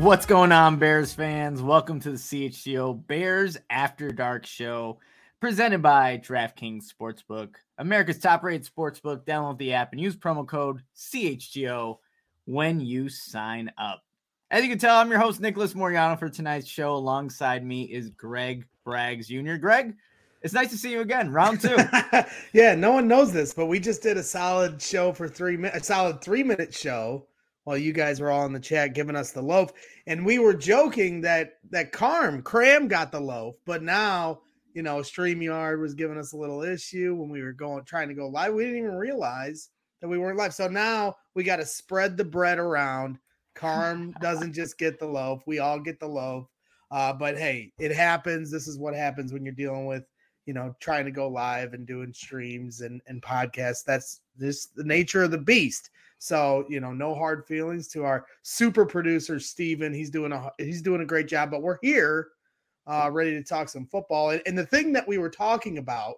What's going on, Bears fans? Welcome to the CHGO Bears After Dark Show, presented by DraftKings Sportsbook, America's top-rated sportsbook. Download the app and use promo code CHGO when you sign up. As you can tell, I'm your host, Nicholas Moriano, for tonight's show. Alongside me is Greg Braggs Jr. Greg, it's nice to see you again. Round two. Yeah, no one knows this, but we just did a solid show for 3 minutes, a solid 3-minute show while you guys were all in the chat giving us the loaf. And we were joking that Cram got the loaf, but now, StreamYard was giving us a little issue when we were trying to go live. We didn't even realize that we weren't live. So now we got to spread the bread around. Carm doesn't just get the loaf. We all get the loaf. But hey, it happens. This is what happens when you're dealing with, trying to go live and doing streams and podcasts. That's just the nature of the beast. So, no hard feelings to our super producer, Steven. He's doing a great job, but we're here ready to talk some football. And the thing that we were talking about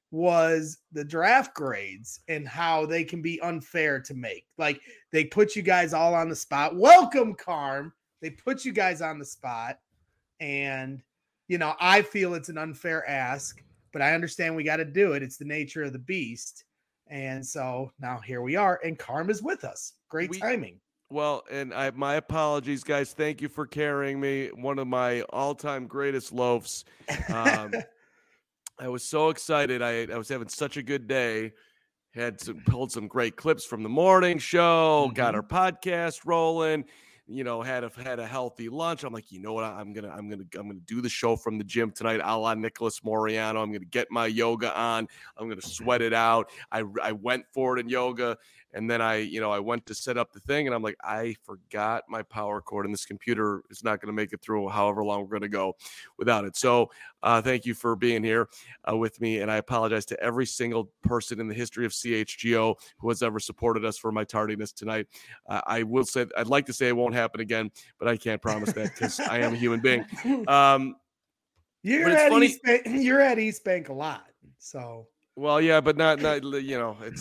was the draft grades and how they can be unfair to make. Like, they put you guys all on the spot. Welcome, Carm. They put you guys on the spot. And, I feel it's an unfair ask, but I understand we got to do it. It's the nature of the beast. And so now here we are, and Carm is with us. Great timing. Well, and my apologies, guys. Thank you for carrying me. One of my all-time greatest loafs. I was so excited. I was having such a good day. Pulled some great clips from the morning show. Got our podcast rolling. Had a healthy lunch. I'm like, you know what? I'm gonna do the show from the gym tonight, a la Nicholas Moriano. I'm gonna get my yoga on. I'm gonna sweat it out. I went for it in yoga, and then I went to set up the thing, and I'm like, I forgot my power cord, and this computer is not gonna make it through however long we're gonna go without it. So thank you for being here with me, and I apologize to every single person in the history of CHGO who has ever supported us for my tardiness tonight. I will say, I'd like to say it won't happen again, but I can't promise that because I am a human being. You're at East Bank a lot, so. Well, yeah, but not it's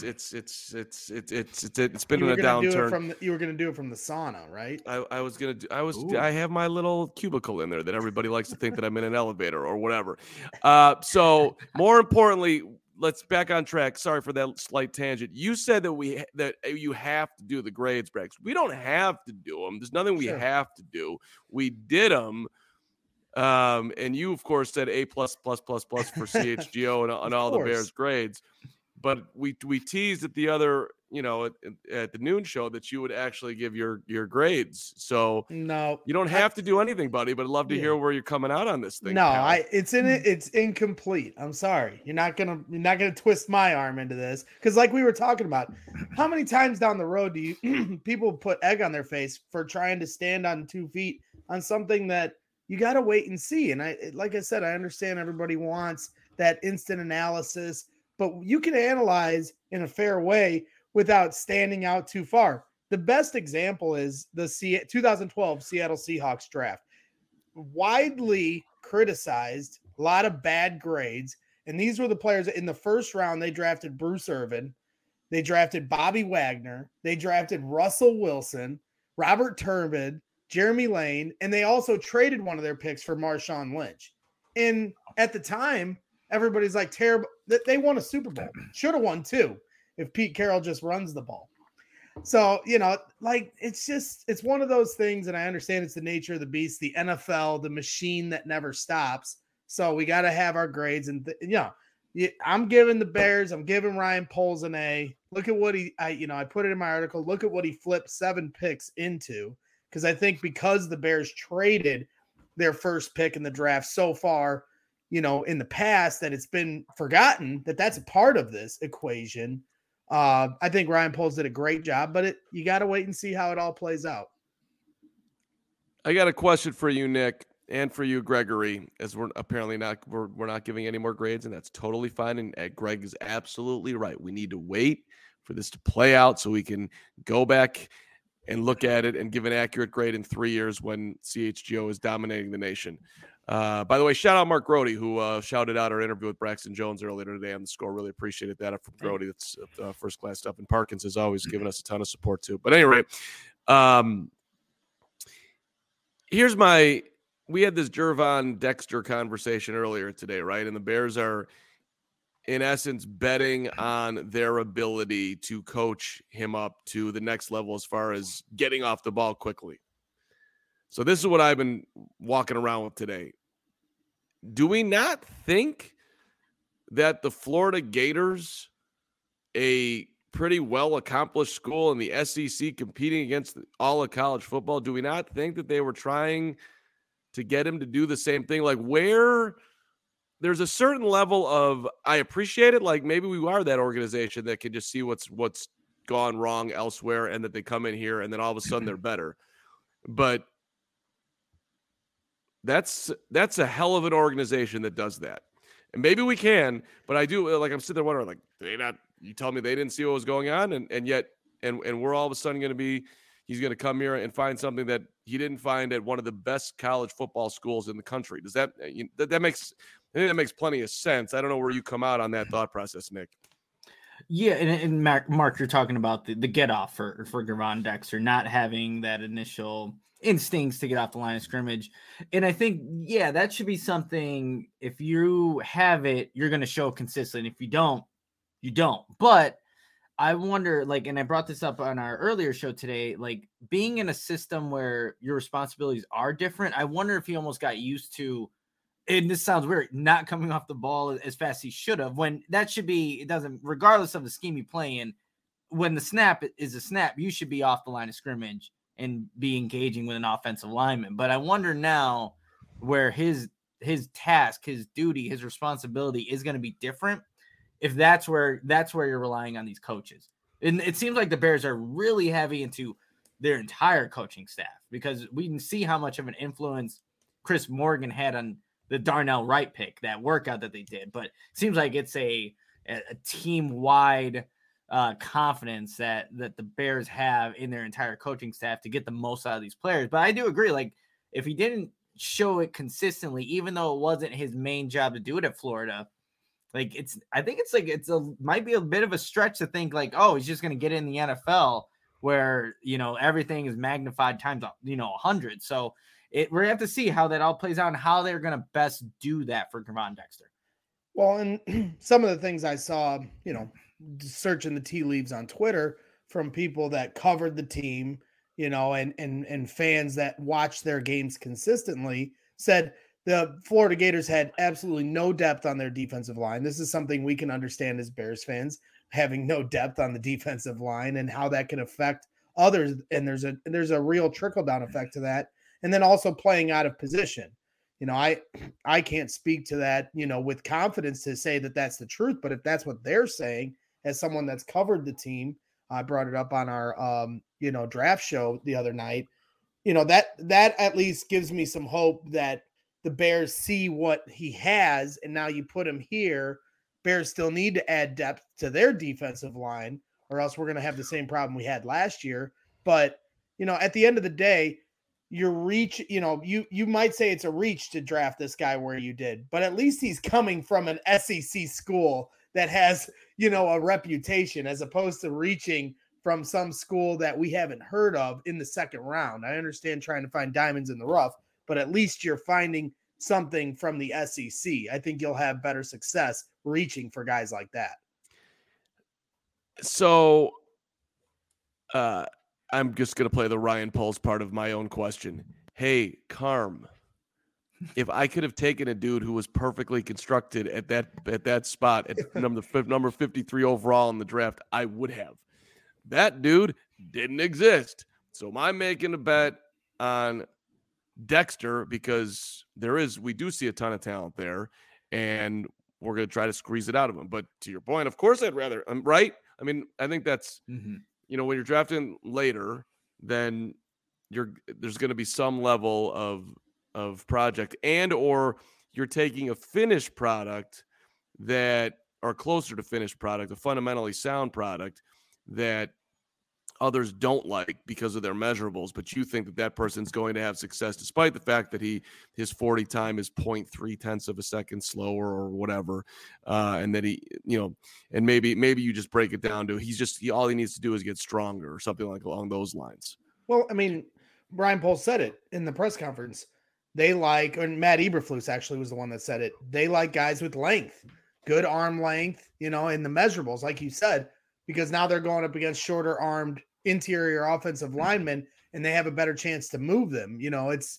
been in a downturn. You were going to do it from the sauna, right? I have my little cubicle in there that everybody likes to think that I'm in an elevator or whatever. So more importantly, let's back on track. Sorry for that slight tangent. You said that you have to do the grades, Braggs. We don't have to do them. There's nothing we have to do. We did them. And you, of course, said A+++ for CHGO and all the Bears grades. But we teased at the other, at the noon show that you would actually give your grades. So no, you don't have to do anything, buddy, but I'd love to hear where you're coming out on this thing. No, it's incomplete. I'm sorry. You're not gonna twist my arm into this. Because like we were talking about, how many times down the road do you people put egg on their face for trying to stand on 2 feet on something that you got to wait and see. And like I said, I understand everybody wants that instant analysis, but you can analyze in a fair way without standing out too far. The best example is the 2012 Seattle Seahawks draft. Widely criticized, a lot of bad grades. And these were the players in the first round. They drafted Bruce Irvin. They drafted Bobby Wagner. They drafted Russell Wilson, Robert Turbin, Jeremy Lane, and they also traded one of their picks for Marshawn Lynch. And at the time, everybody's like, terrible. They won a Super Bowl. Should have won too if Pete Carroll just runs the ball. So, it's one of those things, and I understand it's the nature of the beast, the NFL, the machine that never stops. So we got to have our grades. And, I'm giving the Bears, I'm giving Ryan Poles an A. Look at what I put it in my article. Look at what he flipped 7 picks into. Because I think because the Bears traded their first pick in the draft so far, in the past, that it's been forgotten that that's a part of this equation. I think Ryan Poles did a great job, but you got to wait and see how it all plays out. I got a question for you, Nick, and for you, Gregory, as we're apparently we're not giving any more grades, and that's totally fine. And Greg is absolutely right. We need to wait for this to play out so we can go back and look at it and give an accurate grade in 3 years when CHGO is dominating the nation. By the way, shout out Mark Grody, who shouted out our interview with Braxton Jones earlier today on the score. Really appreciated that from Grody. That's first-class stuff. And Parkins has always given us a ton of support, too. But anyway, we had this Gervon Dexter conversation earlier today, right? And the Bears are, in essence, betting on their ability to coach him up to the next level as far as getting off the ball quickly. So this is what I've been walking around with today. Do we not think that the Florida Gators, a pretty well-accomplished school in the SEC competing against all of college football, do we not think that they were trying to get him to do the same thing? Like, where there's a certain level of, I appreciate it, like maybe we are that organization that can just see what's gone wrong elsewhere and that they come in here and then all of a sudden they're better. But that's a hell of an organization that does that. And maybe we can, but I do, like, I'm sitting there wondering, like, you tell me they didn't see what was going on, and yet we're all of a sudden going to be, he's going to come here and find something that he didn't find at one of the best college football schools in the country. Does that makes plenty of sense? I don't know where you come out on that thought process, Nick. Yeah, and Mark, you're talking about the get off for Gervon Dexter not having that initial instincts to get off the line of scrimmage. And I think, yeah, that should be something, if you have it, you're going to show consistently. If you don't, you don't. But I wonder, like, and I brought this up on our earlier show today, like being in a system where your responsibilities are different, I wonder if he almost got used to, and this sounds weird, not coming off the ball as fast as he should have, when that should be, it doesn't, regardless of the scheme you play in, when the snap is a snap, you should be off the line of scrimmage and be engaging with an offensive lineman. But I wonder now where his task, his duty, his responsibility is going to be different, if that's where you're relying on these coaches. And it seems like the Bears are really heavy into their entire coaching staff, because we can see how much of an influence Chris Morgan had on the Darnell Wright pick, that workout that they did. But it seems like it's a team-wide confidence that the Bears have in their entire coaching staff to get the most out of these players. But I do agree, like, if he didn't show it consistently, even though it wasn't his main job to do it at Florida, like, I think it's might be a bit of a stretch to think like, oh, he's just going to get in the NFL where, everything is magnified times, 100. So we're going to have to see how that all plays out and how they're going to best do that for Gervon Dexter. Well, and some of the things I saw, searching the tea leaves on Twitter from people that covered the team, and fans that watch their games consistently, said the Florida Gators had absolutely no depth on their defensive line. This is something we can understand as Bears fans, having no depth on the defensive line and how that can affect others. And there's a real trickle-down effect to that. And then also playing out of position. I can't speak to that, with confidence to say that that's the truth. But if that's what they're saying, as someone that's covered the team, I brought it up on our, draft show the other night, that at least gives me some hope that the Bears see what he has. And now you put him here. Bears still need to add depth to their defensive line, or else we're going to have the same problem we had last year. But, at the end of the day, your reach, you might say it's a reach to draft this guy where you did, but at least he's coming from an SEC school that has, a reputation, as opposed to reaching from some school that we haven't heard of in the second round. I understand trying to find diamonds in the rough, but at least you're finding something from the SEC. I think you'll have better success reaching for guys like that. So, I'm just going to play the Ryan Poles part of my own question. Hey, Carm, if I could have taken a dude who was perfectly constructed at that spot at number 53 overall in the draft, I would have. That dude didn't exist. So I'm making a bet on Dexter because we do see a ton of talent there, and we're going to try to squeeze it out of him. But to your point, of course, I'd rather, right? I mean, I think that's, when you're drafting later, then there's going to be some level of project, and or you're taking a finished product that are closer to finished product, a fundamentally sound product that others don't like because of their measurables, but you think that person's going to have success despite the fact that his 40 time is 0.3 of a second slower or whatever, and that he, and maybe you just break it down to all he needs to do is get stronger or something like along those lines. Well, I mean, Brian Poles said it in the press conference. They like, and Matt Eberflus actually was the one that said it. They like guys with length, good arm length, in the measurables, like you said, because now they're going up against shorter armed interior offensive linemen and they have a better chance to move them. It's,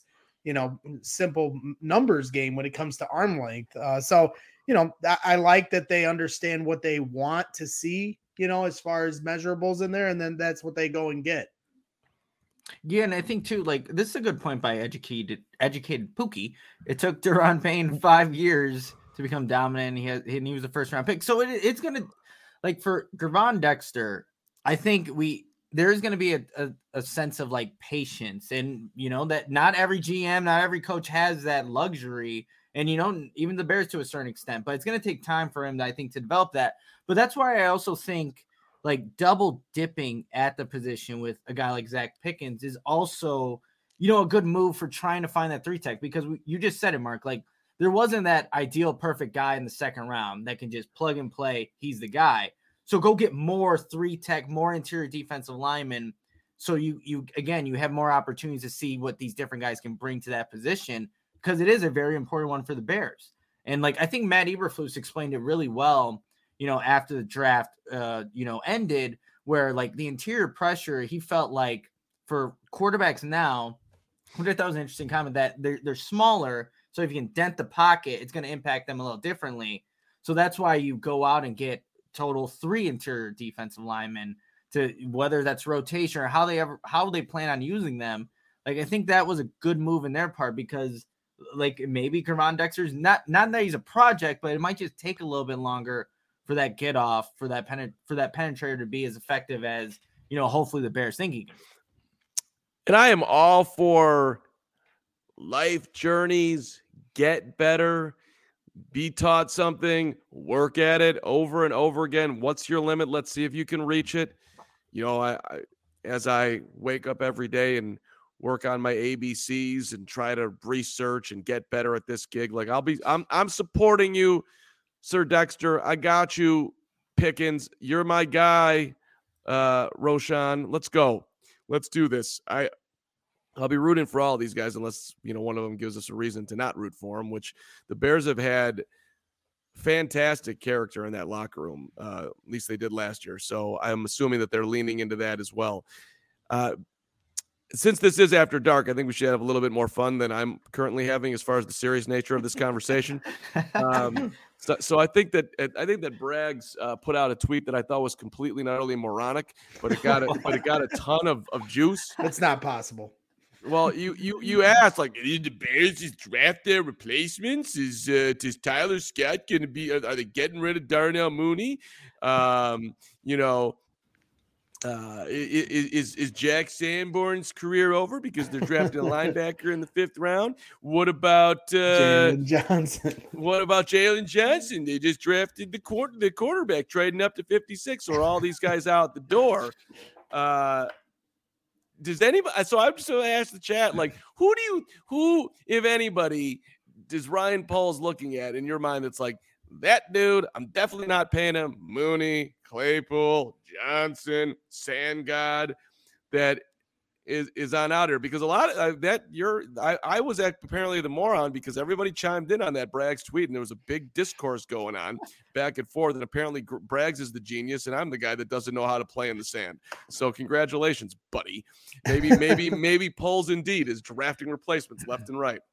simple numbers game when it comes to arm length. So, I like that they understand what they want to see, as far as measurables in there. And then that's what they go and get. Yeah, and I think too, like this is a good point by educated Pookie. It took Daron Payne 5 years to become dominant. And he was a first round pick. So it's gonna, like, for Gervon Dexter, I think there's gonna be a sense of like patience, and that not every GM, not every coach has that luxury, and even the Bears to a certain extent. But it's gonna take time for him, I think, to develop that. But that's why I also think, like, double dipping at the position with a guy like Zach Pickens is also, a good move for trying to find that 3-tech, because you just said it, Mark. Like, there wasn't that ideal perfect guy in the second round that can just plug and play. He's the guy. So go get more 3-tech, more interior defensive linemen. So you have more opportunities to see what these different guys can bring to that position, because it is a very important one for the Bears. And like, I think Matt Eberflus explained it really well, after the draft, ended, where like the interior pressure, he felt like for quarterbacks now, which I thought was an interesting comment, that they're smaller. So if you can dent the pocket, it's going to impact them a little differently. So that's why you go out and get total 3 interior defensive linemen, to whether that's rotation or how they plan on using them. Like, I think that was a good move in their part, because like maybe Gervon Dexter's not that he's a project, but it might just take a little bit longer for that get off, for that penetrator to be as effective as, hopefully the Bears think he can. And I am all for life journeys, get better, be taught something, work at it over and over again. What's your limit? Let's see if you can reach it. As I wake up every day and work on my ABCs and try to research and get better at this gig, like I'm supporting you, Sir Dexter. I got you, Pickens. You're my guy, Roshan. Let's go. Let's do this. I'll be rooting for all these guys unless, one of them gives us a reason to not root for them, which the Bears have had fantastic character in that locker room. At least they did last year. So I'm assuming that they're leaning into that as well. Since this is After Dark, I think we should have a little bit more fun than I'm currently having as far as the serious nature of this conversation. So I think that Braggs put out a tweet that I thought was completely not only moronic, but it got a ton of juice. It's not possible. Well, you asked, like, did the Bears just draft their replacements? Is Tyler Scott going to be? Are they getting rid of Darnell Mooney? Is Jack Sanborn's career over because they're drafting a linebacker in the 5th round? What about Jalen Johnson? What about Jalen Johnson? They just drafted the quarterback, trading up to 56. Or all these guys out the door? Does anybody? So I'm just going to ask the chat, like, who, if anybody, does Ryan Poles looking at in your mind that's like, that dude, I'm definitely not paying him? Mooney, Claypool, Johnson, Sandgod, that is on out here, because a lot of I was apparently the moron, because everybody chimed in on that Braggs tweet and there was a big discourse going on back and forth, and apparently Braggs is the genius and I'm the guy that doesn't know how to play in the sand. So congratulations, buddy. Maybe Poles indeed is drafting replacements left and right.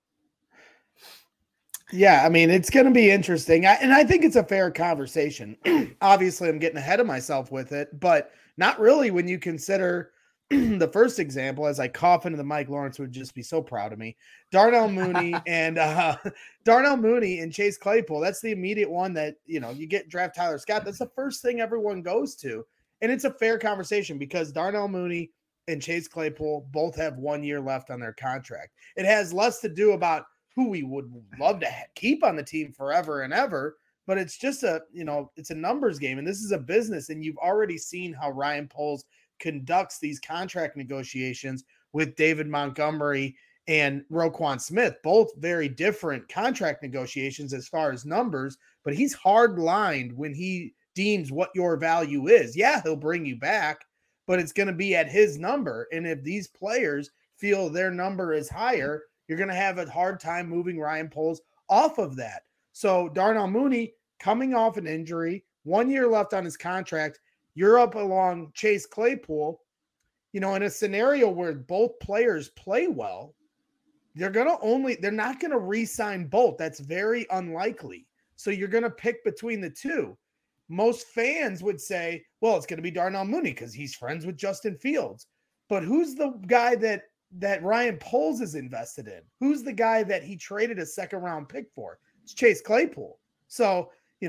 Yeah, I mean, it's going to be interesting. And I think it's a fair conversation. Obviously, I'm getting ahead of myself with it, but not really when you consider the first example. As I cough into the mic, Lawrence would just be so proud of me. Darnell Mooney and Chase Claypool. That's the immediate one that, you get draft Tyler Scott. That's the first thing everyone goes to. And it's a fair conversation because Darnell Mooney and Chase Claypool both have 1 year left on their contract. It has less to do about who we would love to keep on the team forever and ever, but it's just it's a numbers game, and this is a business, and you've already seen how Ryan Poles conducts these contract negotiations with David Montgomery and Roquan Smith, both very different contract negotiations as far as numbers, but he's hard-lined when he deems what your value is. Yeah, he'll bring you back, but it's going to be at his number, and if these players feel their number is higher, you're going to have a hard time moving Ryan Poles off of that. So Darnell Mooney coming off an injury, 1 year left on his contract. You're up along Chase Claypool, in a scenario where both players play well, they're not going to re-sign both. That's very unlikely. So you're going to pick between the two. Most fans would say, well, it's going to be Darnell Mooney because he's friends with Justin Fields. But who's the guy that Ryan Poles is invested in? Who's the guy that he traded a second-round pick for? It's Chase Claypool. So,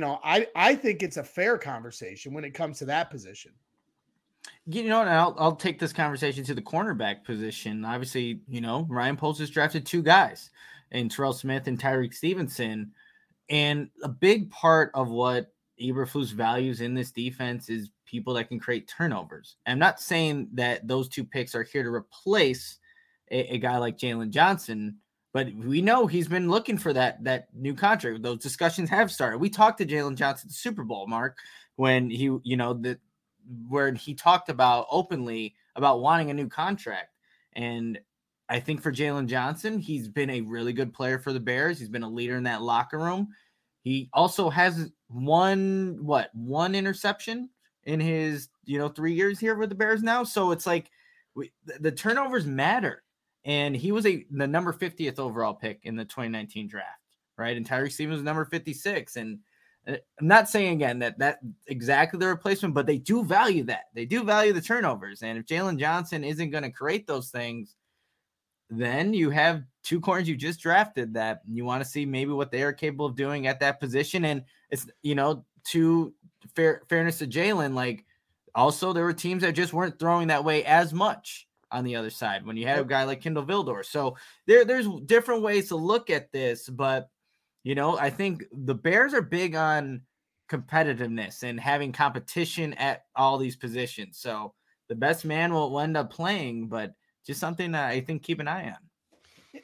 I think it's a fair conversation when it comes to that position. And I'll take this conversation to the cornerback position. Obviously, Ryan Poles has drafted two guys, in Terrell Smith and Tyreek Stevenson. And a big part of what Eberflus values in this defense is people that can create turnovers. I'm not saying that those two picks are here to replace a guy like Jalen Johnson, but we know he's been looking for that new contract. Those discussions have started. We talked to Jalen Johnson at the Super Bowl, Mark, when he, where he talked about openly about wanting a new contract. And I think for Jalen Johnson, he's been a really good player for the Bears. He's been a leader in that locker room. He also has one interception in his, 3 years here with the Bears now. So it's like the turnovers matter. And he was the number 50th overall pick in the 2019 draft, right? And Tyreek Stevens was number 56. And I'm not saying again that exactly the replacement, but they do value that. They do value the turnovers. And if Jalen Johnson isn't going to create those things, then you have two corners you just drafted that you want to see maybe what they are capable of doing at that position. And it's, to fairness to Jalen, like also there were teams that just weren't throwing that way as much on the other side when you had a guy like Kindle Vildor. So there's different ways to look at this, but I think the Bears are big on competitiveness and having competition at all these positions. So the best man will end up playing, but just something that I think keep an eye on.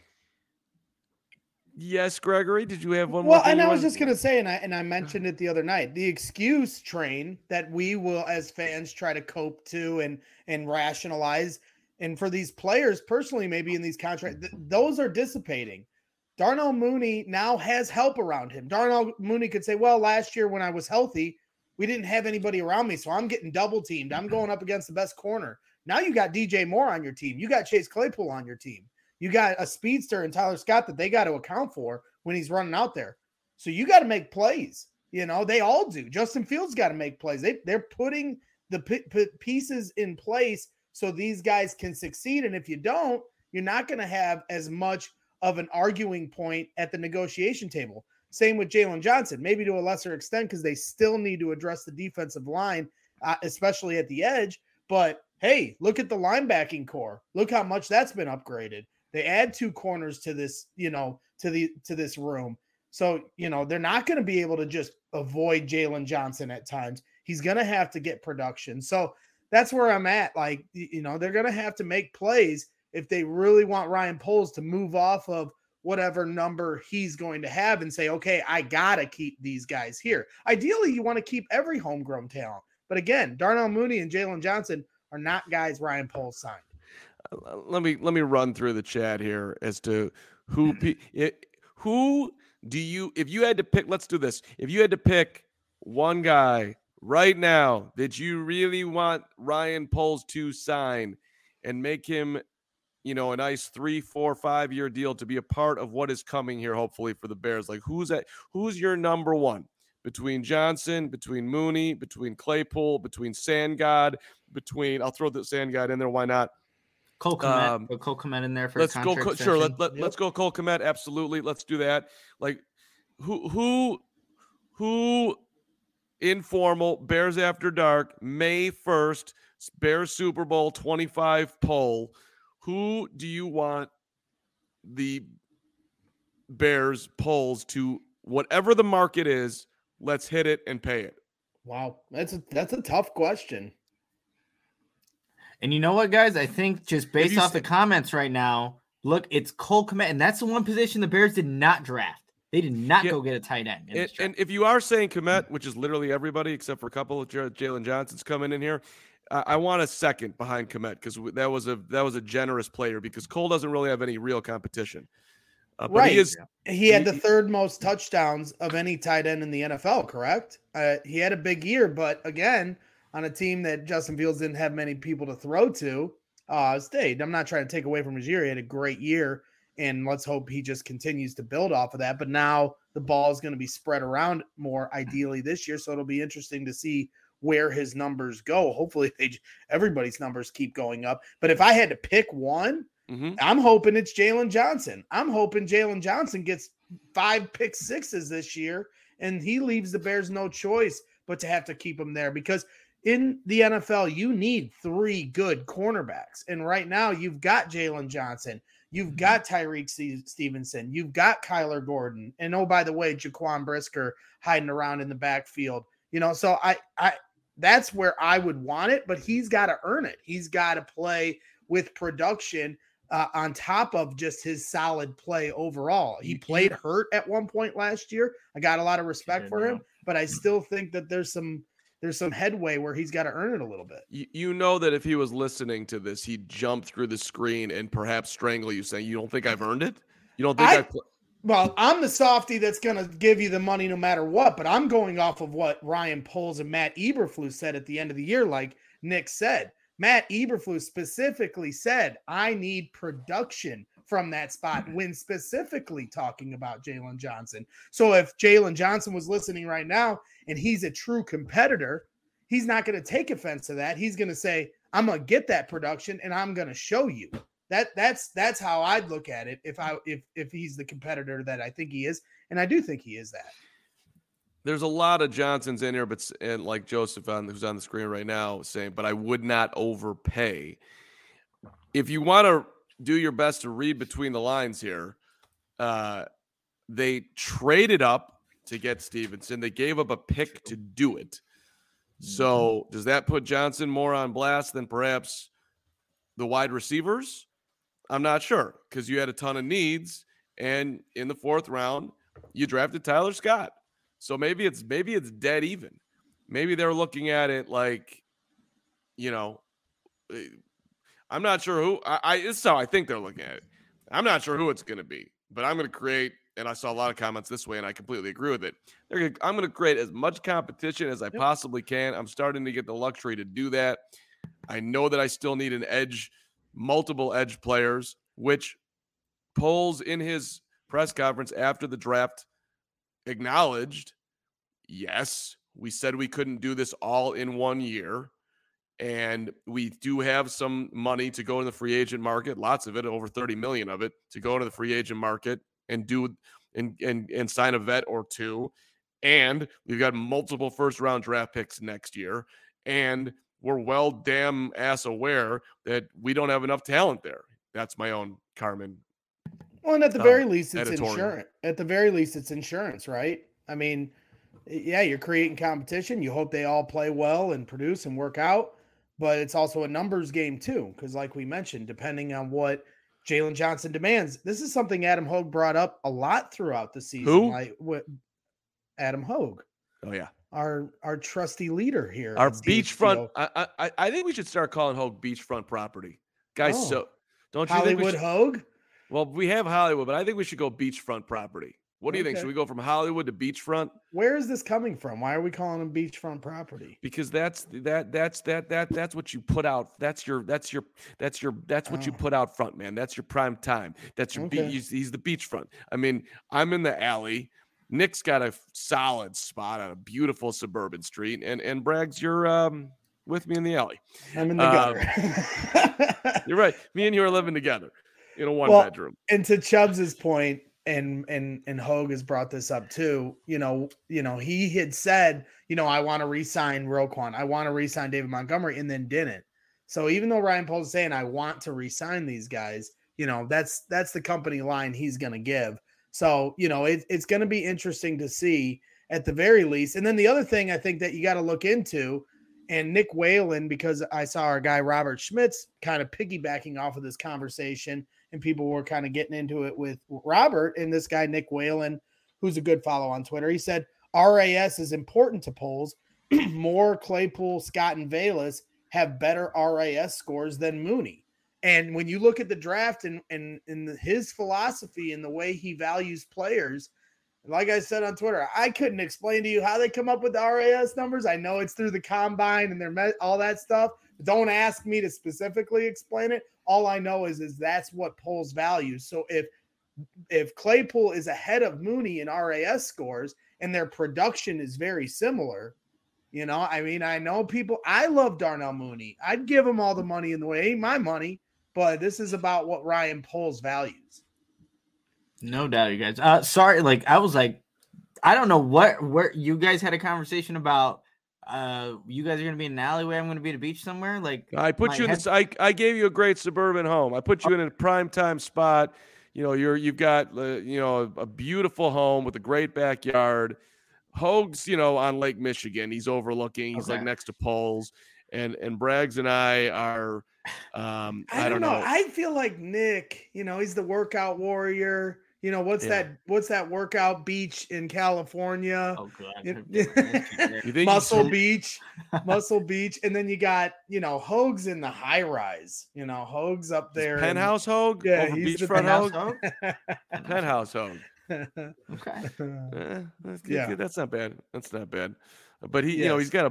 Yes, Gregory, did you have one more? Well, and I was just going to say, and I mentioned it the other night, the excuse train that we will as fans try to cope to and rationalize. And for these players personally, maybe in these contracts, those are dissipating. Darnell Mooney now has help around him. Darnell Mooney could say, well, last year when I was healthy, we didn't have anybody around me, so I'm getting double teamed. I'm going up against the best corner. Now you got DJ Moore on your team. You got Chase Claypool on your team. You got a speedster and Tyler Scott that they got to account for when he's running out there. So you got to make plays. They all do. Justin Fields got to make plays. They're putting the pieces in place so these guys can succeed. And if you don't, you're not going to have as much of an arguing point at the negotiation table. Same with Jalen Johnson, maybe to a lesser extent because they still need to address the defensive line, especially at the edge. But hey, look at the linebacking core. Look how much that's been upgraded. They add two corners to this, to this room. So, they're not going to be able to just avoid Jalen Johnson at times. He's going to have to get production. So that's where I'm at. Like, they're going to have to make plays if they really want Ryan Poles to move off of whatever number he's going to have and say, okay, I got to keep these guys here. Ideally, you want to keep every homegrown talent. But again, Darnell Mooney and Jalen Johnson are not guys Ryan Poles signed. Let me run through the chat here as to who do you, if you had to pick, let's do this. If you had to pick one guy right now that you really want Ryan Poles to sign and make him, a nice 3, 4, 5 year deal to be a part of what is coming here, hopefully for the Bears. Like who's your number one between Johnson, between Mooney, between Claypool, between Sandgod, I'll throw the Sandgod in there. Why not? Cole Kmet, put Cole Kmet in there for let's a contract go. Sure, let's go Cole Kmet. Absolutely, let's do that. Like who informal Bears After Dark May 1st Bears Super Bowl 25 poll. Who do you want the Bears polls to whatever the market is? Let's hit it and pay it. Wow, that's a tough question. And you know what, guys? I think just based off the comments right now, look, it's Cole Kmet, and that's the one position the Bears did not draft. They did not go get a tight end. And if you are saying Kmet, which is literally everybody except for a couple of Jalen Johnson's coming in here, I want a second behind Kmet because that was a generous player because Cole doesn't really have any real competition. Right. But he had the third most touchdowns of any tight end in the NFL, correct? He had a big year, but again, on a team that Justin Fields didn't have many people to throw to, stayed. I'm not trying to take away from his year. He had a great year, and let's hope he just continues to build off of that. But now the ball is going to be spread around more ideally this year, so it'll be interesting to see where his numbers go. Hopefully everybody's numbers keep going up. But if I had to pick one, I'm hoping it's Jalen Johnson. I'm hoping Jalen Johnson gets 5 pick sixes this year, and he leaves the Bears no choice but to have to keep him there because in the NFL, you need 3 good cornerbacks. And right now you've got Jalen Johnson. You've got Tyreek Stevenson. You've got Kyler Gordon. And oh, by the way, Jaquan Brisker hiding around in the backfield. So I that's where I would want it, but he's got to earn it. He's got to play with production on top of just his solid play overall. He played hurt at one point last year. I got a lot of respect for him, but I still think that there's some headway where he's got to earn it a little bit. You know that if he was listening to this, he'd jump through the screen and perhaps strangle you saying, you don't think I've earned it? You don't think Well, I'm the softy that's going to give you the money no matter what, but I'm going off of what Ryan Poles and Matt Eberflus said at the end of the year, like Nick said. Matt Eberflus specifically said, I need production from that spot when specifically talking about Jalen Johnson. So if Jalen Johnson was listening right now and he's a true competitor, he's not going to take offense to that. He's going to say, I'm going to get that production and I'm going to show you. That's how I'd look at it if he's the competitor that I think he is, and I do think he is that. There's a lot of Johnsons in here, and like Joseph who's on the screen right now saying, but I would not overpay. If you want to do your best to read between the lines here, they traded up to get Stevenson. They gave up a pick to do it. So does that put Johnson more on blast than perhaps the wide receivers? I'm not sure because you had a ton of needs, and in the 4th round, you drafted Tyler Scott. So maybe it's dead even. Maybe they're looking at it like, I'm not sure who. This is how I think they're looking at it. I'm not sure who it's going to be, but I'm going to create. And I saw a lot of comments this way, and I completely agree with it. I'm going to create as much competition as I possibly can. I'm starting to get the luxury to do that. I know that I still need multiple edge players, which Poles in his press conference after the draft acknowledged, yes, we said we couldn't do this all in 1 year. And we do have some money to go in the free agent market, lots of it, over 30 million of it, to go into the free agent market and do and sign a vet or 2. And we've got multiple 1st-round draft picks next year. And we're well damn ass aware that we don't have enough talent there. That's my own Carmen. Well, and at the very least, it's editorial. insurance. At the very least, it's insurance, right? I mean, yeah, you're creating competition. You hope they all play well and produce and work out, but it's also a numbers game too. Because like we mentioned, depending on what Jalen Johnson demands, this is something Adam Hogue brought up a lot throughout the season. Who? Like what? Adam Hogue. Oh yeah. Our trusty leader here. Our beachfront. I think we should start calling Hogue beachfront property. Guys, so don't you Hollywood think Hogue? Well, we have Hollywood, but I think we should go beachfront property. What do you think? Should we go from Hollywood to beachfront? Where is this coming from? Why are we calling them beachfront property? Because that's what you put out. That's what you put out front, man. That's your prime time. That's your he's the beachfront. I mean, I'm in the alley. Nick's got a solid spot on a beautiful suburban street, and Braggs, you're with me in the alley. I'm in the gutter. You're right. Me and you are living together in a one-bedroom. And to Chubbs's point, and Hogue has brought this up too. He had said, I want to re-sign Roquan, I want to re-sign David Montgomery, and then didn't. So even though Ryan Poles is saying I want to re-sign these guys, that's the company line he's going to give. So it's going to be interesting to see at the very least. And then the other thing I think that you got to look into, and Nick Whalen, because I saw our guy Robert Schmitz kind of piggybacking off of this conversation, and people were kind of getting into it with Robert and this guy, Nick Whalen, who's a good follow on Twitter. He said, RAS is important to Poles. More Claypool, Scott, and Velus have better RAS scores than Mooney. And when you look at the draft and his philosophy and the way he values players, like I said on Twitter, I couldn't explain to you how they come up with the RAS numbers. I know it's through the combine and all that stuff. Don't ask me to specifically explain it. All I know is that's what polls value. So if Claypool is ahead of Mooney in RAS scores and their production is very similar, I know people. I love Darnell Mooney. I'd give him all the money in the way. It ain't my money, but this is about what Ryan Poles values. No doubt, you guys. Sorry, I was like, I don't know where you guys had a conversation about. You guys are gonna be in an alleyway. I'm gonna be at a beach somewhere. I put you in this. I gave you a great suburban home. I put you in a prime time spot. You've got a beautiful home with a great backyard. Hoag's on Lake Michigan. He's overlooking. He's next to Poles, and Braggs and I are. I don't know. I feel like Nick. He's the workout warrior. What's that workout beach in California? Oh God. Muscle Beach. And then you got, Hoag's in the high rise, Hoag's up there. Penthouse Hoag? Yeah. He's beachfront Hoag? Penthouse Hoag. Okay. That's not bad. That's not bad. But he's got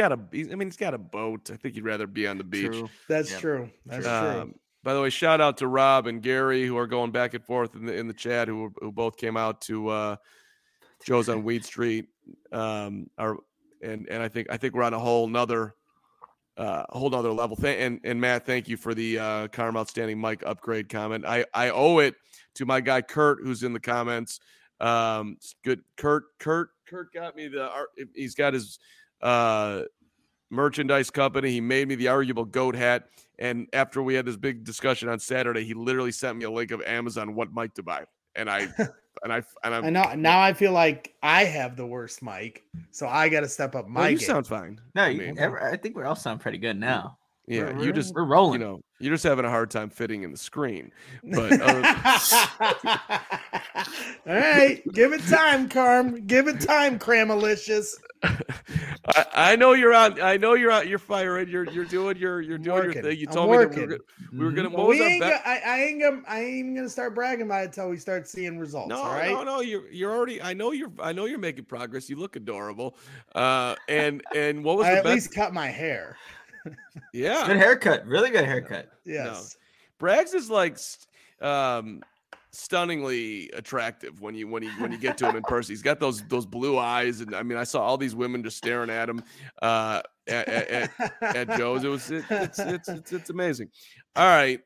a boat. I think he'd rather be on the beach. True. That's true. That's true. By the way, shout out to Rob and Gary who are going back and forth in the chat who both came out to Joe's on Weed Street. And I think we're on a whole nother level. And Matt, thank you for the Carm Outstanding Mike upgrade comment. I owe it to my guy Kurt who's in the comments. Good Kurt got me he's got his merchandise company. He made me the arguable goat hat. And after we had this big discussion on Saturday, he literally sent me a link of Amazon what mic to buy. And I know now I feel like I have the worst mic, so I got to step up my game. Sound fine. No, I think we all sound pretty good now. Yeah, we're rolling. You're just having a hard time fitting in the screen. But all right, give it time, Carm. Give it time, Cramalicious. I know you're out. You're firing. You're doing your thing. You told me that we were gonna. I ain't even gonna start bragging about it until we start seeing results. No, all right? No. You're already. I know you're making progress. You look adorable. And what was I the at least cut my hair. Yeah, good haircut. Really good haircut. Yes. No. Braggs is stunningly attractive when you get to him in person. He's got those blue eyes, and I saw all these women just staring at him at Joe's. It's amazing. All right,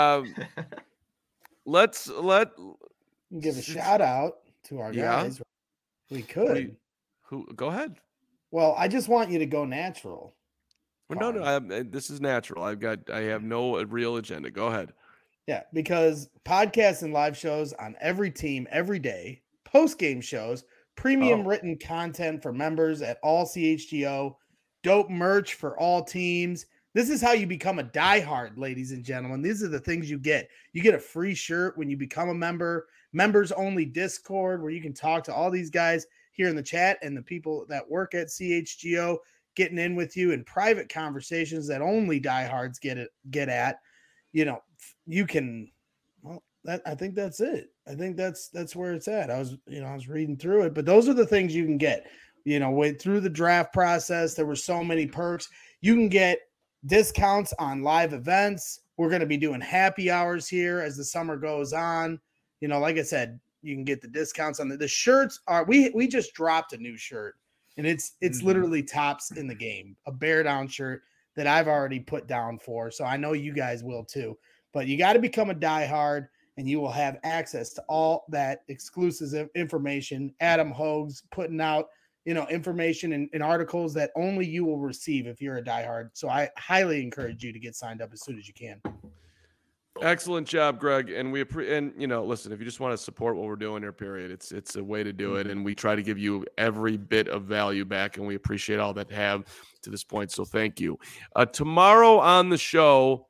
let's give a shout out to our guys. We could. Who? Go ahead. Well, I just want you to go natural. Well, no, this is natural. I have no real agenda. Go ahead. Yeah, because podcasts and live shows on every team, every day, post-game shows, premium written content for members at all CHGO, dope merch for all teams. This is how you become a diehard, ladies and gentlemen. These are the things you get. You get a free shirt when you become a member, members-only Discord where you can talk to all these guys here in the chat and the people that work at CHGO getting in with you in private conversations that only diehards get at. You can, I think that's it. I think that's where it's at. I was reading through it, but those are the things you can get, through the draft process. There were so many perks. You can get discounts on live events. We're going to be doing happy hours here as the summer goes on. Like I said, you can get the discounts on the shirts we just dropped a new shirt and it's literally tops in the game, a bear down shirt that I've already put down for. So I know you guys will too. But you got to become a diehard, and you will have access to all that exclusive information. Adam Hoag's putting out, information and articles that only you will receive if you're a diehard. So I highly encourage you to get signed up as soon as you can. Excellent job, Greg. And listen, if you just want to support what we're doing here, period, it's a way to do it. And we try to give you every bit of value back, and we appreciate all that have to this point. So thank you. Tomorrow on the show,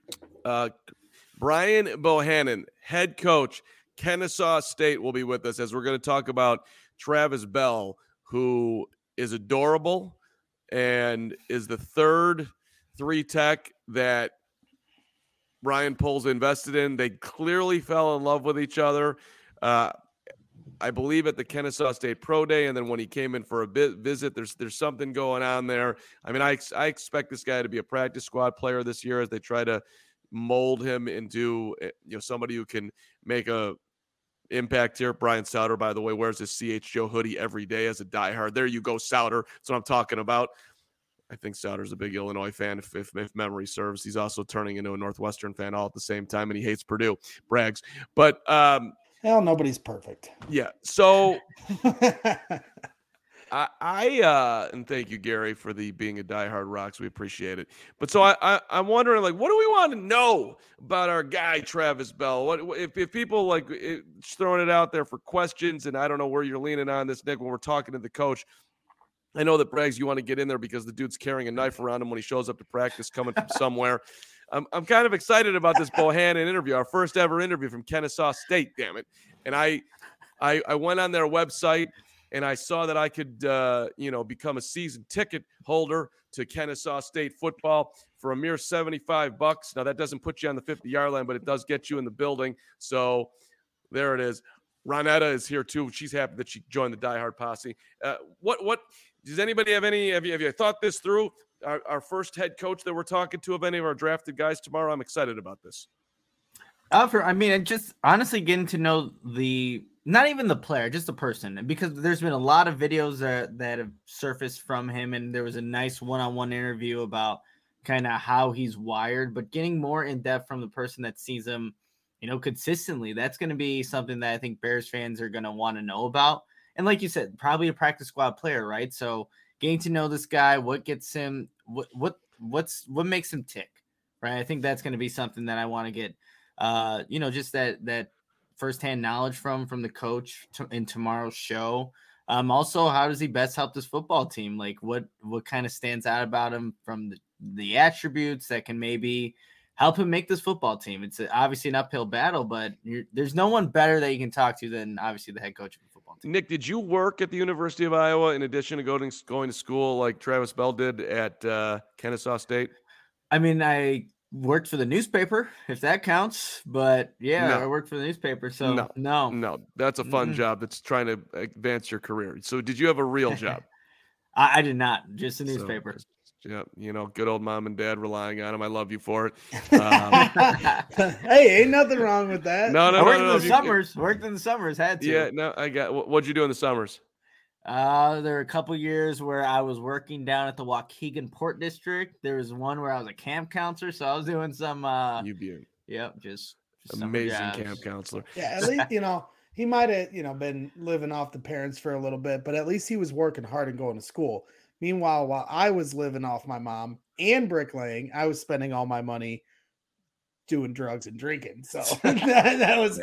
Brian Bohannon, head coach, Kennesaw State, will be with us as we're going to talk about Travis Bell, who is adorable and is the third 3-tech that Ryan Poles invested in. They clearly fell in love with each other. I believe at the Kennesaw State Pro Day, and then when he came in for a visit, there's something going on there. I mean, I expect this guy to be a practice squad player this year as they try to mold him into somebody who can make a impact here. Brian Sauter, by the way, wears his CHGO hoodie every day as a diehard. There you go, Sauter. That's what I'm talking about. I think Sauter's a big Illinois fan, if memory serves. He's also turning into a Northwestern fan all at the same time, and he hates Purdue. Brags. But hell, nobody's perfect. Yeah. So I and thank you, Gary, for being a diehard Rocks. We appreciate it. But so I'm wondering, like, what do we want to know about our guy Travis Bell? What if people like throwing it out there for questions? And I don't know where you're leaning on this, Nick, when we're talking to the coach. I know that Braggs, you want to get in there because the dude's carrying a knife around him when he shows up to practice, coming from somewhere. I'm kind of excited about this Bohannon interview, our first ever interview from Kennesaw State. Damn it! And I went on their website and I saw that I could become a season ticket holder to Kennesaw State football for a mere $75. Now that doesn't put you on the 50-yard line, but it does get you in the building. So there it is. Ronetta is here too. She's happy that she joined the Die Hard posse. What does anybody have any? Have you thought this through? Our first head coach that we're talking to of any of our drafted guys tomorrow. I'm excited about this. Just honestly getting to know not even the player, just the person, because there's been a lot of videos that have surfaced from him, and there was a nice one-on-one interview about kind of how he's wired, but getting more in depth from the person that sees him, consistently. That's going to be something that I think Bears fans are going to want to know about. And like you said, probably a practice squad player, right? So getting to know this guy, what gets him, what makes him tick, right? I think that's going to be something that I want to get, just that firsthand knowledge from the coach in tomorrow's show. Also, how does he best help this football team? Like what kind of stands out about him from the attributes that can maybe help him make this football team? It's obviously an uphill battle, but there's no one better that you can talk to than obviously the head coach of the football team. Nick, did you work at the University of Iowa in addition to going to school like Travis Bell did at Kennesaw State? I mean, I worked for the newspaper, if that counts, but yeah, I worked for the newspaper. So no, that's a fun job. That's trying to advance your career. So did you have a real job? I did not, just a newspaper. Yeah, good old mom and dad relying on him. I love you for it. Hey, ain't nothing wrong with that. No. Worked in the summers, had to. Yeah, no, I got. What'd you do in the summers? There were a couple years where I was working down at the Waukegan Port District. There was one where I was a camp counselor, so I was doing some. Just amazing camp counselor. Yeah, at least he might have been living off the parents for a little bit, but at least he was working hard and going to school. Meanwhile, while I was living off my mom and bricklaying, I was spending all my money doing drugs and drinking. So that's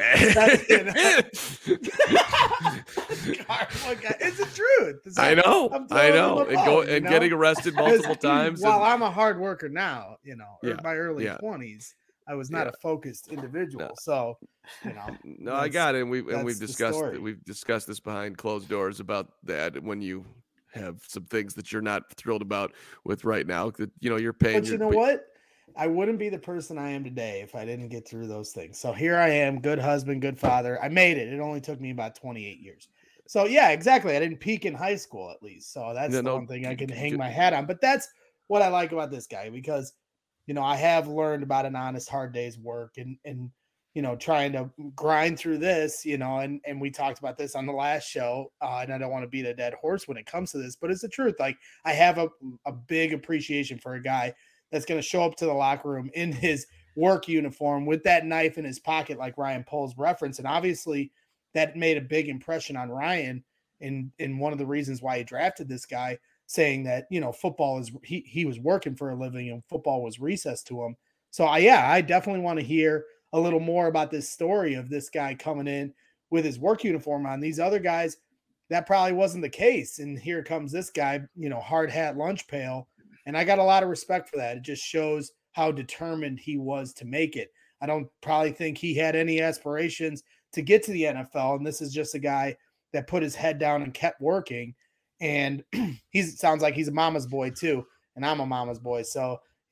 it's the truth. I know. And getting arrested multiple times. While I'm a hard worker now, in my early 20s, I was not a focused individual. No. So, no, I got it. And we've discussed this behind closed doors about that when you have some things that you're not thrilled about with right now that you're paying. But you know what? I wouldn't be the person I am today if I didn't get through those things. So here I am, good husband, good father. I made it. It only took me about 28 years. So yeah, exactly. I didn't peak in high school at least. So that's one thing I can hang my hat on. But that's what I like about this guy because I have learned about an honest, hard day's work and trying to grind through this, and we talked about this on the last show, and I don't want to beat a dead horse when it comes to this, but it's the truth. Like I have a big appreciation for a guy that's going to show up to the locker room in his work uniform with that knife in his pocket, like Ryan Poles referenced. And obviously that made a big impression on Ryan in one of the reasons why he drafted this guy, saying that, football is, he was working for a living and football was recess to him. So I definitely want to hear a little more about this story of this guy coming in with his work uniform on. These other guys, that probably wasn't the case. And here comes this guy, hard hat, lunch pail. And I got a lot of respect for that. It just shows how determined he was to make it. I don't probably think he had any aspirations to get to the NFL. And this is just a guy that put his head down and kept working. And sounds like he's a mama's boy too. And I'm a mama's boy. So,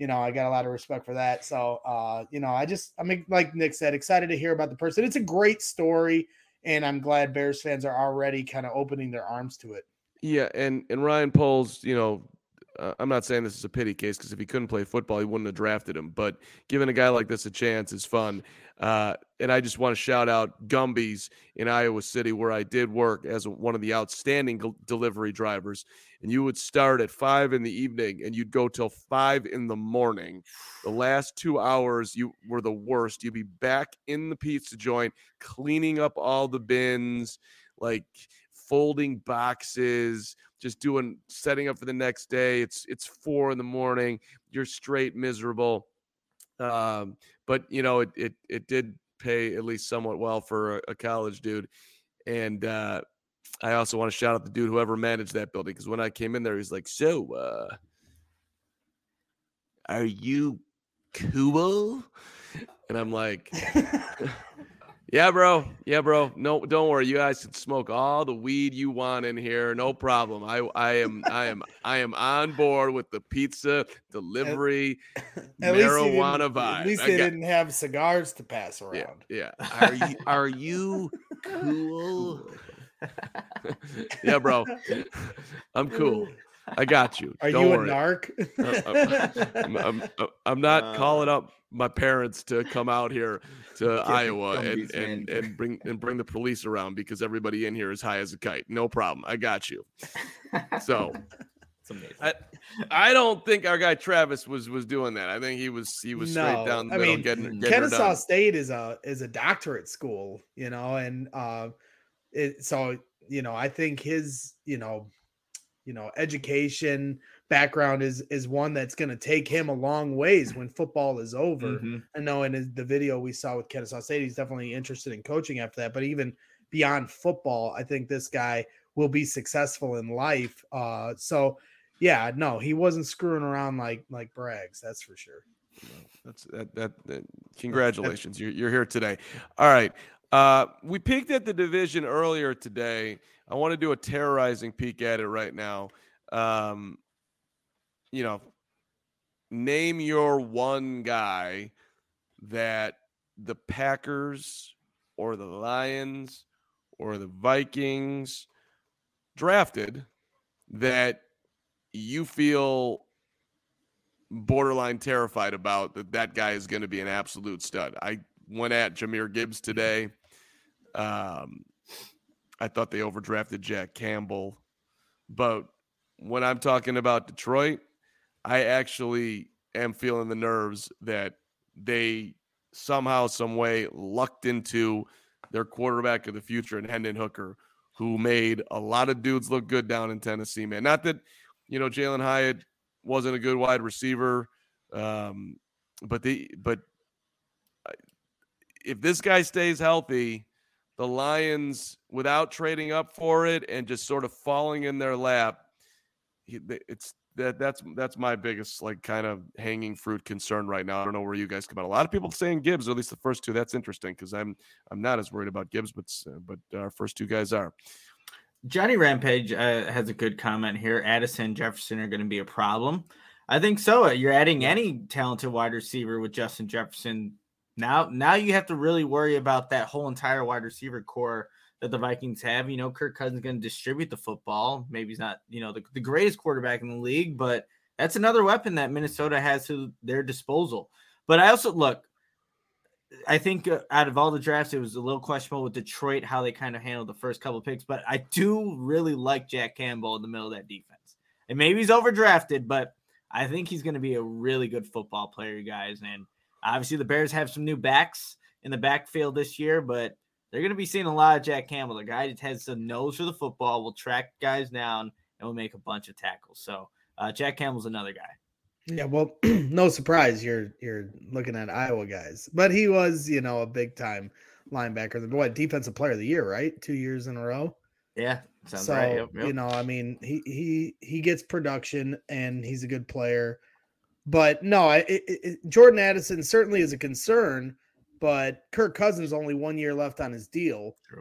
I got a lot of respect for that. So, I'm like Nick said, excited to hear about the person. It's a great story, and I'm glad Bears fans are already kind of opening their arms to it. Yeah, and Ryan Poles, I'm not saying this is a pity case because if he couldn't play football, he wouldn't have drafted him. But giving a guy like this a chance is fun. And I just want to shout out Gumby's in Iowa City, where I did work as one of the outstanding delivery drivers. And you would start at 5 p.m. and you'd go till 5 a.m. The last 2 hours, you were the worst. You'd be back in the pizza joint, cleaning up all the bins, like folding boxes, just setting up for the next day. It's 4 a.m. You're straight miserable. But it did pay at least somewhat well for a college dude. And I also want to shout out the dude whoever managed that building, because when I came in there, he's like, "So, are you cool?" And I'm like, Yeah, bro. No, don't worry. You guys can smoke all the weed you want in here. No problem. I am on board with the pizza delivery marijuana vibe. At least they didn't have cigars to pass around. Yeah. Are you cool? Yeah, bro. I'm cool. I got you. Don't worry. A narc? I'm not calling up my parents to come out here to Iowa and bring the police around because everybody in here is high as a kite. No problem. I got you. So I don't think our guy Travis was doing that. I think he was straight down the middle getting Kennesaw State is a doctorate school, and I think his education background is one that's going to take him a long ways when football is over. Mm-hmm. I know in the video we saw with Kennesaw State, he's definitely interested in coaching after that, but even beyond football, I think this guy will be successful in life. He wasn't screwing around like Braggs. That's for sure. That's that. Congratulations. You're here today. All right. We peeked at the division earlier today. I want to do a terrorizing peek at it right now. Name your one guy that the Packers or the Lions or the Vikings drafted that you feel borderline terrified about, that guy is going to be an absolute stud. I went at Jahmyr Gibbs today. I thought they overdrafted Jack Campbell. But when I'm talking about Detroit, I actually am feeling the nerves that they somehow, some way lucked into their quarterback of the future in Hendon Hooker, who made a lot of dudes look good down in Tennessee, man. Not that, Jalen Hyatt wasn't a good wide receiver, but if this guy stays healthy, the Lions, without trading up for it and just sort of falling in their lap, that's my biggest kind of hanging fruit concern right now. I don't know where you guys come out. A lot of people saying Gibbs, or at least the first two. That's interesting because I'm not as worried about Gibbs, but our first two guys are. Johnny Rampage has a good comment here. Addison and Jefferson are going to be a problem. I think so. You're adding any talented wide receiver with Justin Jefferson. Now you have to really worry about that whole entire wide receiver core that the Vikings have. Kirk Cousins is going to distribute the football. Maybe he's not, the greatest quarterback in the league, but that's another weapon that Minnesota has to their disposal. But I think out of all the drafts, it was a little questionable with Detroit, how they kind of handled the first couple of picks. But I do really like Jack Campbell in the middle of that defense. And maybe he's overdrafted, but I think he's going to be a really good football player, guys. And obviously the Bears have some new backs in the backfield this year, but they're going to be seeing a lot of Jack Campbell. The guy that has a nose for the football, will track guys down, and will make a bunch of tackles. So Jack Campbell's another guy. Yeah, well, no surprise you're looking at Iowa guys, but he was, a big time linebacker. Defensive player of the year, right? 2 years in a row. Yeah, sounds right. Yep. He gets production and he's a good player. But no, Jordan Addison certainly is a concern. But Kirk Cousins only 1 year left on his deal. True.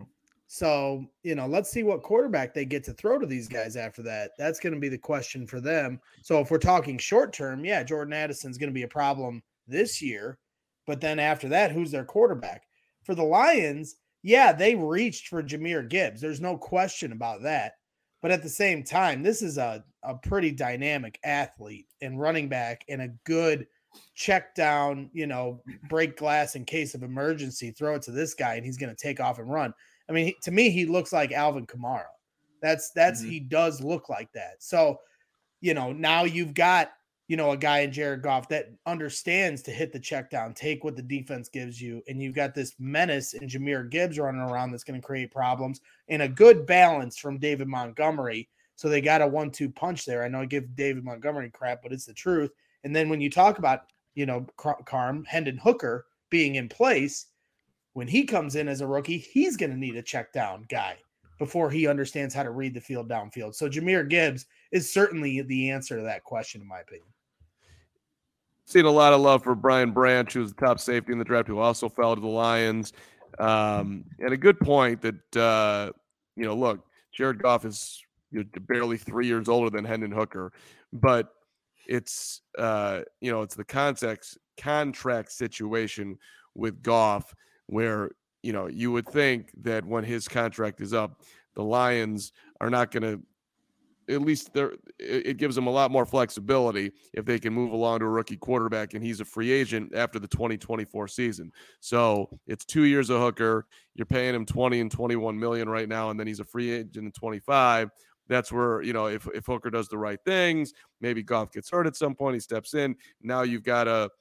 So, let's see what quarterback they get to throw to these guys after that. That's going to be the question for them. So if we're talking short term, yeah, Jordan Addison's going to be a problem this year. But then after that, who's their quarterback? For the Lions, yeah, they reached for Jahmyr Gibbs. There's no question about that. But at the same time, this is a pretty dynamic athlete and running back and a good check down, break glass in case of emergency, throw it to this guy and he's going to take off and run. I mean, to me, he looks like Alvin Kamara. He does look like that. So, now you've got, a guy in Jared Goff that understands to hit the check down, take what the defense gives you. And you've got this menace in Jahmyr Gibbs running around that's going to create problems, and a good balance from David Montgomery. So they got a 1-2 punch there. I know I give David Montgomery crap, but it's the truth. And then when you talk about, Hendon Hooker being in place, when he comes in as a rookie, he's going to need a check down guy before he understands how to read the field downfield. So Jahmyr Gibbs is certainly the answer to that question, in my opinion. Seen a lot of love for Brian Branch, who's the top safety in the draft, who also fell to the Lions. And a good point that, look, Jared Goff is barely 3 years older than Hendon Hooker, but it's, it's the contract situation with Goff where, you would think that when his contract is up, the Lions are not going to, at least it gives them a lot more flexibility if they can move along to a rookie quarterback and he's a free agent after the 2024 season. So it's 2 years of Hooker. You're paying him 20 and 21 million right now, and then he's a free agent in 25. That's where, if Hooker does the right things, maybe Goff gets hurt at some point, he steps in. Now you've got a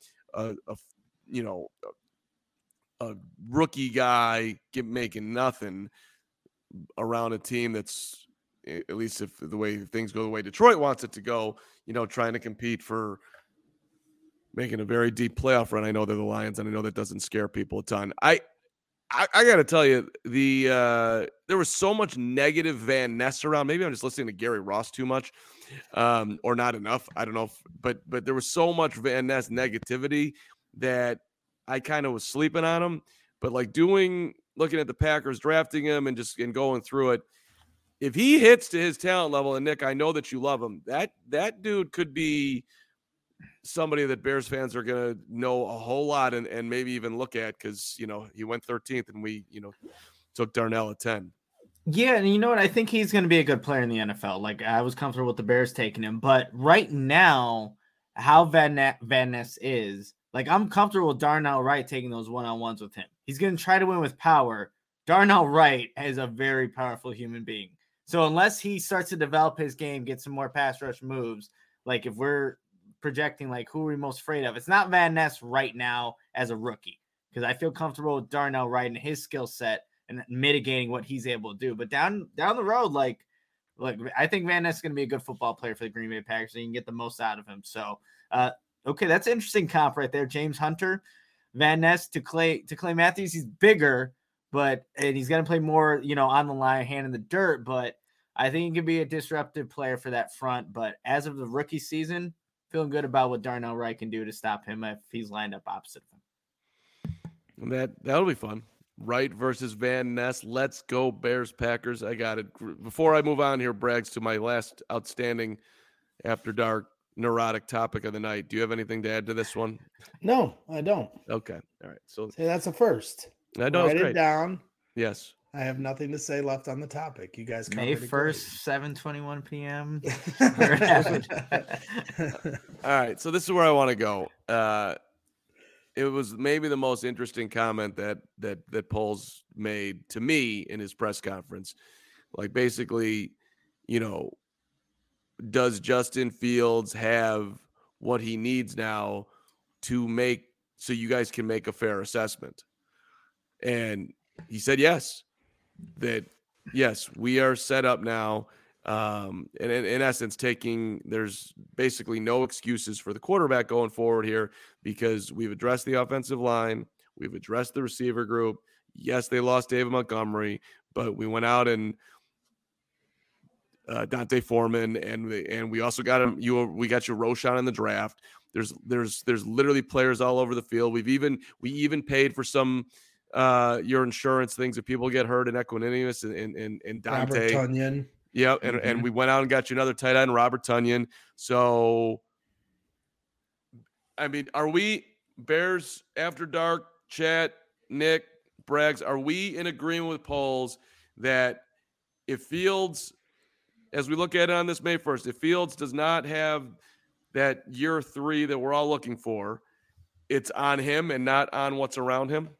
rookie guy making nothing around a team that's, at least if the way things go the way Detroit wants it to go, trying to compete for making a very deep playoff run. I know they're the Lions, and I know that doesn't scare people a ton. I got to tell you, there was so much negative Van Ness around. Maybe I'm just listening to Gary Ross too much, or not enough. I don't know, but there was so much Van Ness negativity that I kind of was sleeping on him. But looking at the Packers drafting him and going through it, if he hits to his talent level, and Nick, I know that you love him, that dude could be somebody that Bears fans are going to know a whole lot and maybe even look at because, he went 13th and we, took Darnell at 10. Yeah, and you know what? I think he's going to be a good player in the NFL. I was comfortable with the Bears taking him. But right now, how Van Ness is, I'm comfortable with Darnell Wright taking those one-on-ones with him. He's going to try to win with power. Darnell Wright is a very powerful human being. So unless he starts to develop his game, get some more pass rush moves, if we're projecting who are we most afraid of, it's not Van Ness right now as a rookie because I feel comfortable with Darnell Wright and his skill set and mitigating what he's able to do. But down the road, I think Van Ness is going to be a good football player for the Green Bay Packers, so you can get the most out of him. So, okay, that's an interesting comp right there. James Hunter, Van Ness to Clay Matthews. He's bigger, and he's going to play more, on the line, hand in the dirt. But I think he could be a disruptive player for that front. But as of the rookie season, feeling good about what Darnell Wright can do to stop him if he's lined up opposite of him. That'll be fun. Wright versus Van Ness. Let's go Bears Packers. I got it. Before I move on here, Braggs, to my last outstanding After Dark neurotic topic of the night. Do you have anything to add to this one? No, I don't. Okay. All right. So that's a first. I know. Write it down. Yes. I have nothing to say left on the topic. You guys May 1st, 7:21 p.m. All right. So this is where I want to go. It was maybe the most interesting comment that Poles made to me in his press conference. Basically, does Justin Fields have what he needs now so you guys can make a fair assessment? And he said yes. That yes, we are set up now. And in essence, there's basically no excuses for the quarterback going forward here because we've addressed the offensive line. We've addressed the receiver group. Yes, they lost David Montgomery, but we went out and Dante Foreman, and we also got him. We got you Roschon in the draft. There's literally players all over the field. We even paid for some your insurance things if people get hurt in Equanimeous and Dante. Robert Tonyan. Yeah, and we went out and got you another tight end, Robert Tonyan. So, I mean, are we Bears After Dark chat, Nick, Braggs, are we in agreement with polls that if Fields, as we look at it on this May 1st, if Fields does not have that year 3 that we're all looking for, it's on him and not on what's around him?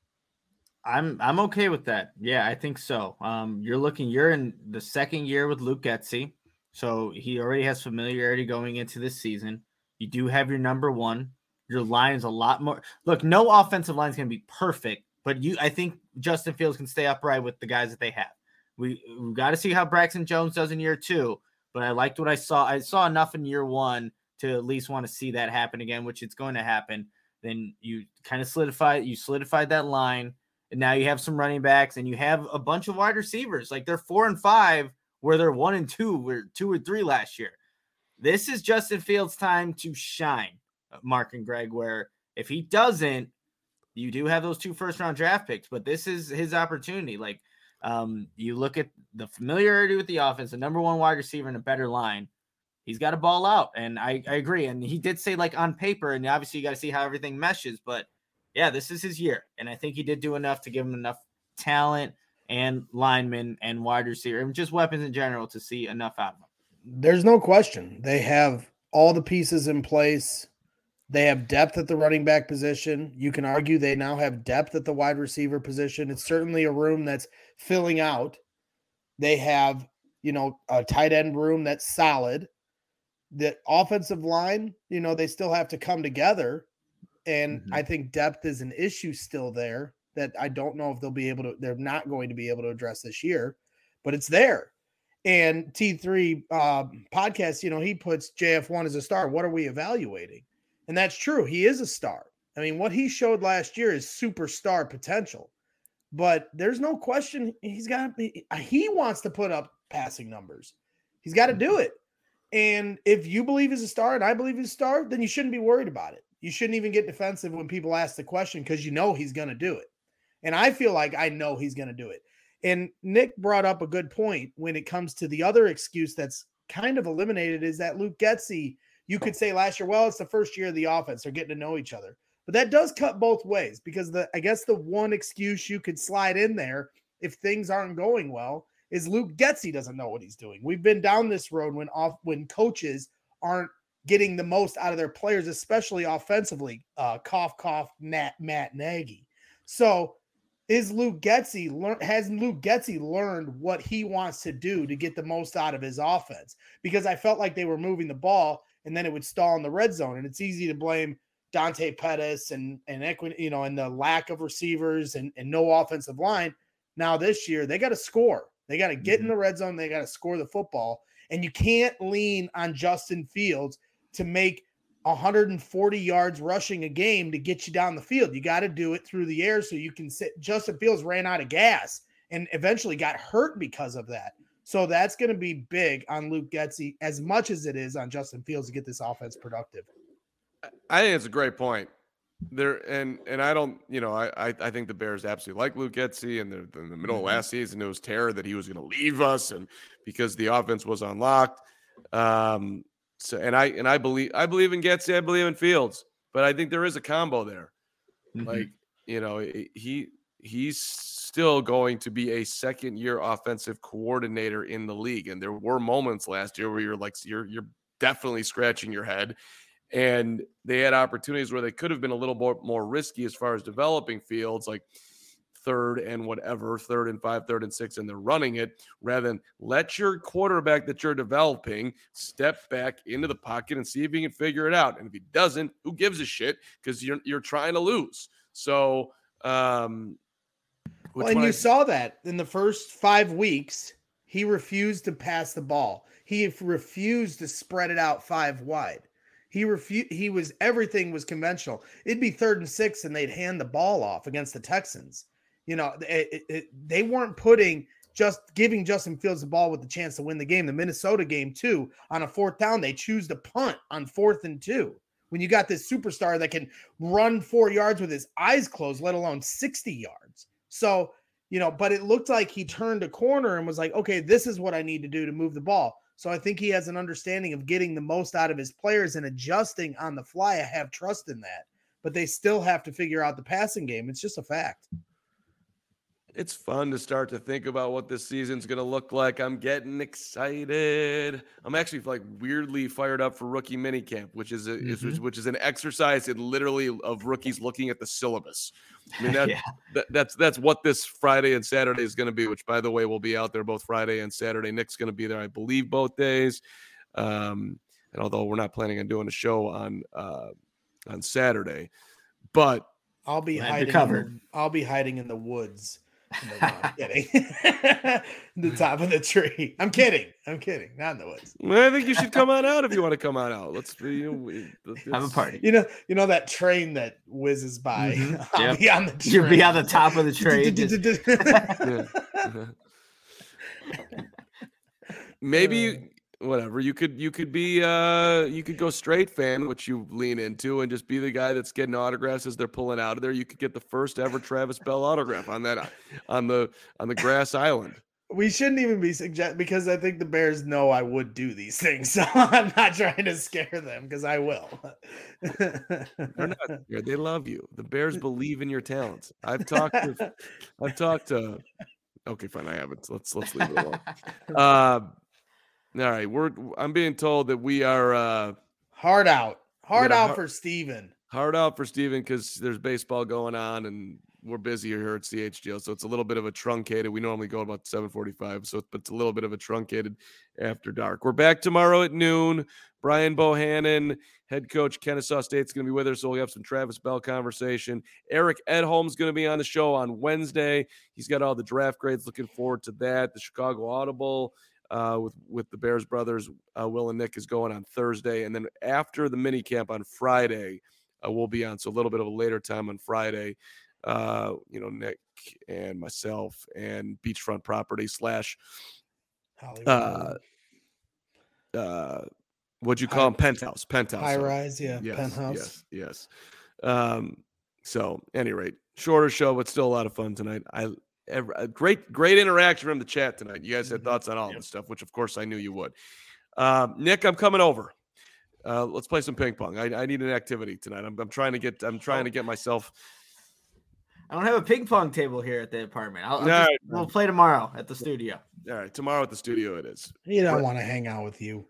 I'm okay with that. Yeah, I think so. You're in the second year with Luke Getsy, so he already has familiarity going into this season. You do have your number one. Your line is a lot more. Look, no offensive line is going to be perfect, but I think Justin Fields can stay upright with the guys that they have. We've got to see how Braxton Jones does in year 2, but I liked what I saw. I saw enough in year 1 to at least want to see that happen again, which it's going to happen. Then you kind of solidified that line. And now you have some running backs and you have a bunch of wide receivers. Like they're 4 and 5 where they're 1 and 2 or 2 or 3 last year. This is Justin Fields' time to shine, Mark and Greg, where if he doesn't, you do have those 2 first-round draft picks, but this is his opportunity. Like you look at the familiarity with the offense, the number 1 wide receiver and a better line. He's got to ball out. And I agree. And he did say like on paper, and obviously you got to see how everything meshes, but yeah, this is his year. And I think he did do enough to give him enough talent and linemen and wide receiver and just weapons in general to see enough out of him. There's no question. They have all the pieces in place. They have depth at the running back position. You can argue they now have depth at the wide receiver position. It's certainly a room that's filling out. They have, a tight end room that's solid. The offensive line, they still have to come together. And I think depth is an issue still there that I don't know if they're not going to be able to address this year, but it's there. And T3 podcast, he puts JF1 as a star. What are we evaluating? And that's true. He is a star. I mean, what he showed last year is superstar potential, but there's no question he wants to put up passing numbers. He's got to do it. And if you believe he's a star and I believe he's a star, then you shouldn't be worried about it. You shouldn't even get defensive when people ask the question because he's going to do it. And I feel like I know he's going to do it. And Nick brought up a good point when it comes to the other excuse that's kind of eliminated is that Luke Getsy, you could say last year, well, it's the first year of the offense. They're getting to know each other. But that does cut both ways because I guess the one excuse you could slide in there if things aren't going well is Luke Getsy doesn't know what he's doing. We've been down this road when coaches aren't getting the most out of their players, especially offensively, cough, Matt Nagy. So has Luke Getsy learned what he wants to do to get the most out of his offense? Because I felt like they were moving the ball and then it would stall in the red zone. And it's easy to blame Dante Pettis and and the lack of receivers and no offensive line. Now this year they got to score. They got to get in the red zone. They got to score the football. And you can't lean on Justin Fields to make 140 yards rushing a game to get you down the field. You got to do it through the air so you can sit. Justin Fields ran out of gas and eventually got hurt because of that. So that's going to be big on Luke Getsy as much as it is on Justin Fields to get this offense productive. I think it's a great point. And I don't, I think the Bears absolutely like Luke Getsy, and in the middle of last season, it was terror that he was going to leave us and because the offense was unlocked. So I believe in Getsy, I believe in Fields, but I think there is a combo there. Like, he's still going to be a second-year offensive coordinator in the league. And there were moments last year where you're definitely scratching your head. And they had opportunities where they could have been a little more risky as far as developing Fields, like 3rd and 5, 3rd and 6, and they're running it rather than let your quarterback that you're developing step back into the pocket and see if he can figure it out. And if he doesn't, who gives a shit? Because you're trying to lose. So, you saw that in the first 5 weeks, he refused to pass the ball. He refused to spread it out 5 wide. Everything was conventional. It'd be 3rd and 6 and they'd hand the ball off against the Texans. They weren't giving Justin Fields the ball with the chance to win the game. The Minnesota game too, on a 4th down, they choose to punt on 4th and 2 when you got this superstar that can run 4 yards with his eyes closed, let alone 60 yards. So, but it looked like he turned a corner and was like, okay, this is what I need to do to move the ball. So I think he has an understanding of getting the most out of his players and adjusting on the fly. I have trust in that, but they still have to figure out the passing game. It's just a fact. It's fun to start to think about what this season's going to look like. I'm getting excited. I'm actually like weirdly fired up for rookie minicamp, which is which is an exercise in literally of rookies looking at the syllabus. I mean, that's what this Friday and Saturday is going to be, which, by the way, will be out there both Friday and Saturday. Nick's going to be there, I believe, both days. And although we're not planning on doing a show on Saturday, but I'll be hiding. I'll be hiding in the woods. No, I'm kidding. The top of the tree. I'm kidding. Not in the woods. Well, I think you should come on out if you want to come on out. Let's have a party. You know that train that whizzes by. Mm-hmm. I'll be on the train. You'll be on the top of the train. Maybe whatever. You could be you could go straight fan, which you lean into, and just be the guy that's getting autographs as they're pulling out of there. You could get the first ever Travis Bell autograph on the grass island. We shouldn't even be because I think the Bears know I would do these things, so I'm not trying to scare them because I will. They're not scared. They love you. The Bears believe in your talents. I've talked to. Okay, fine. I haven't. Let's leave it alone. All right, I'm being told that we are hard out for Steven. Hard out for Steven because there's baseball going on and we're busy here at CHGO, so it's a little bit of a truncated. We normally go about 7:45, so it's a little bit of a truncated after dark. We're back tomorrow at noon. Brian Bohannon, head coach Kennesaw State's going to be with us, so we'll have some Travis Bell conversation. Eric Edholm's going to be on the show on Wednesday. He's got all the draft grades. Looking forward to that. The Chicago Audible. With the Bears brothers, Will and Nick is going on Thursday. And then after the mini camp on Friday, we'll be on. So a little bit of a later time on Friday, Nick and myself and Beachfront Property / what'd you call them? Penthouse. High rise. Yeah. Yes, Penthouse. Yes. So any rate, shorter show, but still a lot of fun tonight. A great interaction from the chat tonight. You guys had thoughts on all this stuff, which of course I knew you would. Nick, I'm coming over. Let's play some ping pong. I need an activity tonight. I'm trying to get myself. I don't have a ping pong table here at the apartment. We'll play tomorrow at the studio. All right, tomorrow at the studio it is. You don't want to hang out with you.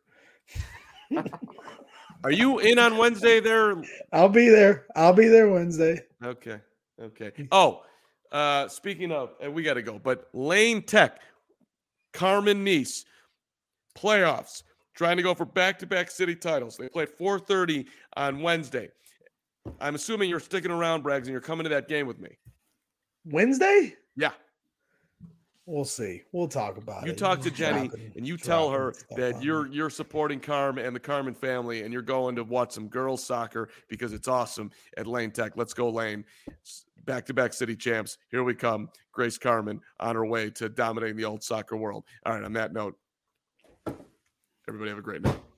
Are you in on Wednesday there? I'll be there Wednesday. Okay. Oh. Speaking of, we got to go, but Lane Tech, Carmen Nice, playoffs, trying to go for back-to-back city titles. They play at 4:30 on Wednesday. I'm assuming you're sticking around, Braggs, and you're coming to that game with me. Wednesday? Yeah. We'll see. We'll talk about it. You talk to Jenny, and you tell her that you're supporting Carm and the Carmen family, and you're going to watch some girls soccer because it's awesome at Lane Tech. Let's go, Lane. Back-to-back city champs. Here we come. Grace Carmen on her way to dominating the old soccer world. All right, on that note, everybody have a great night.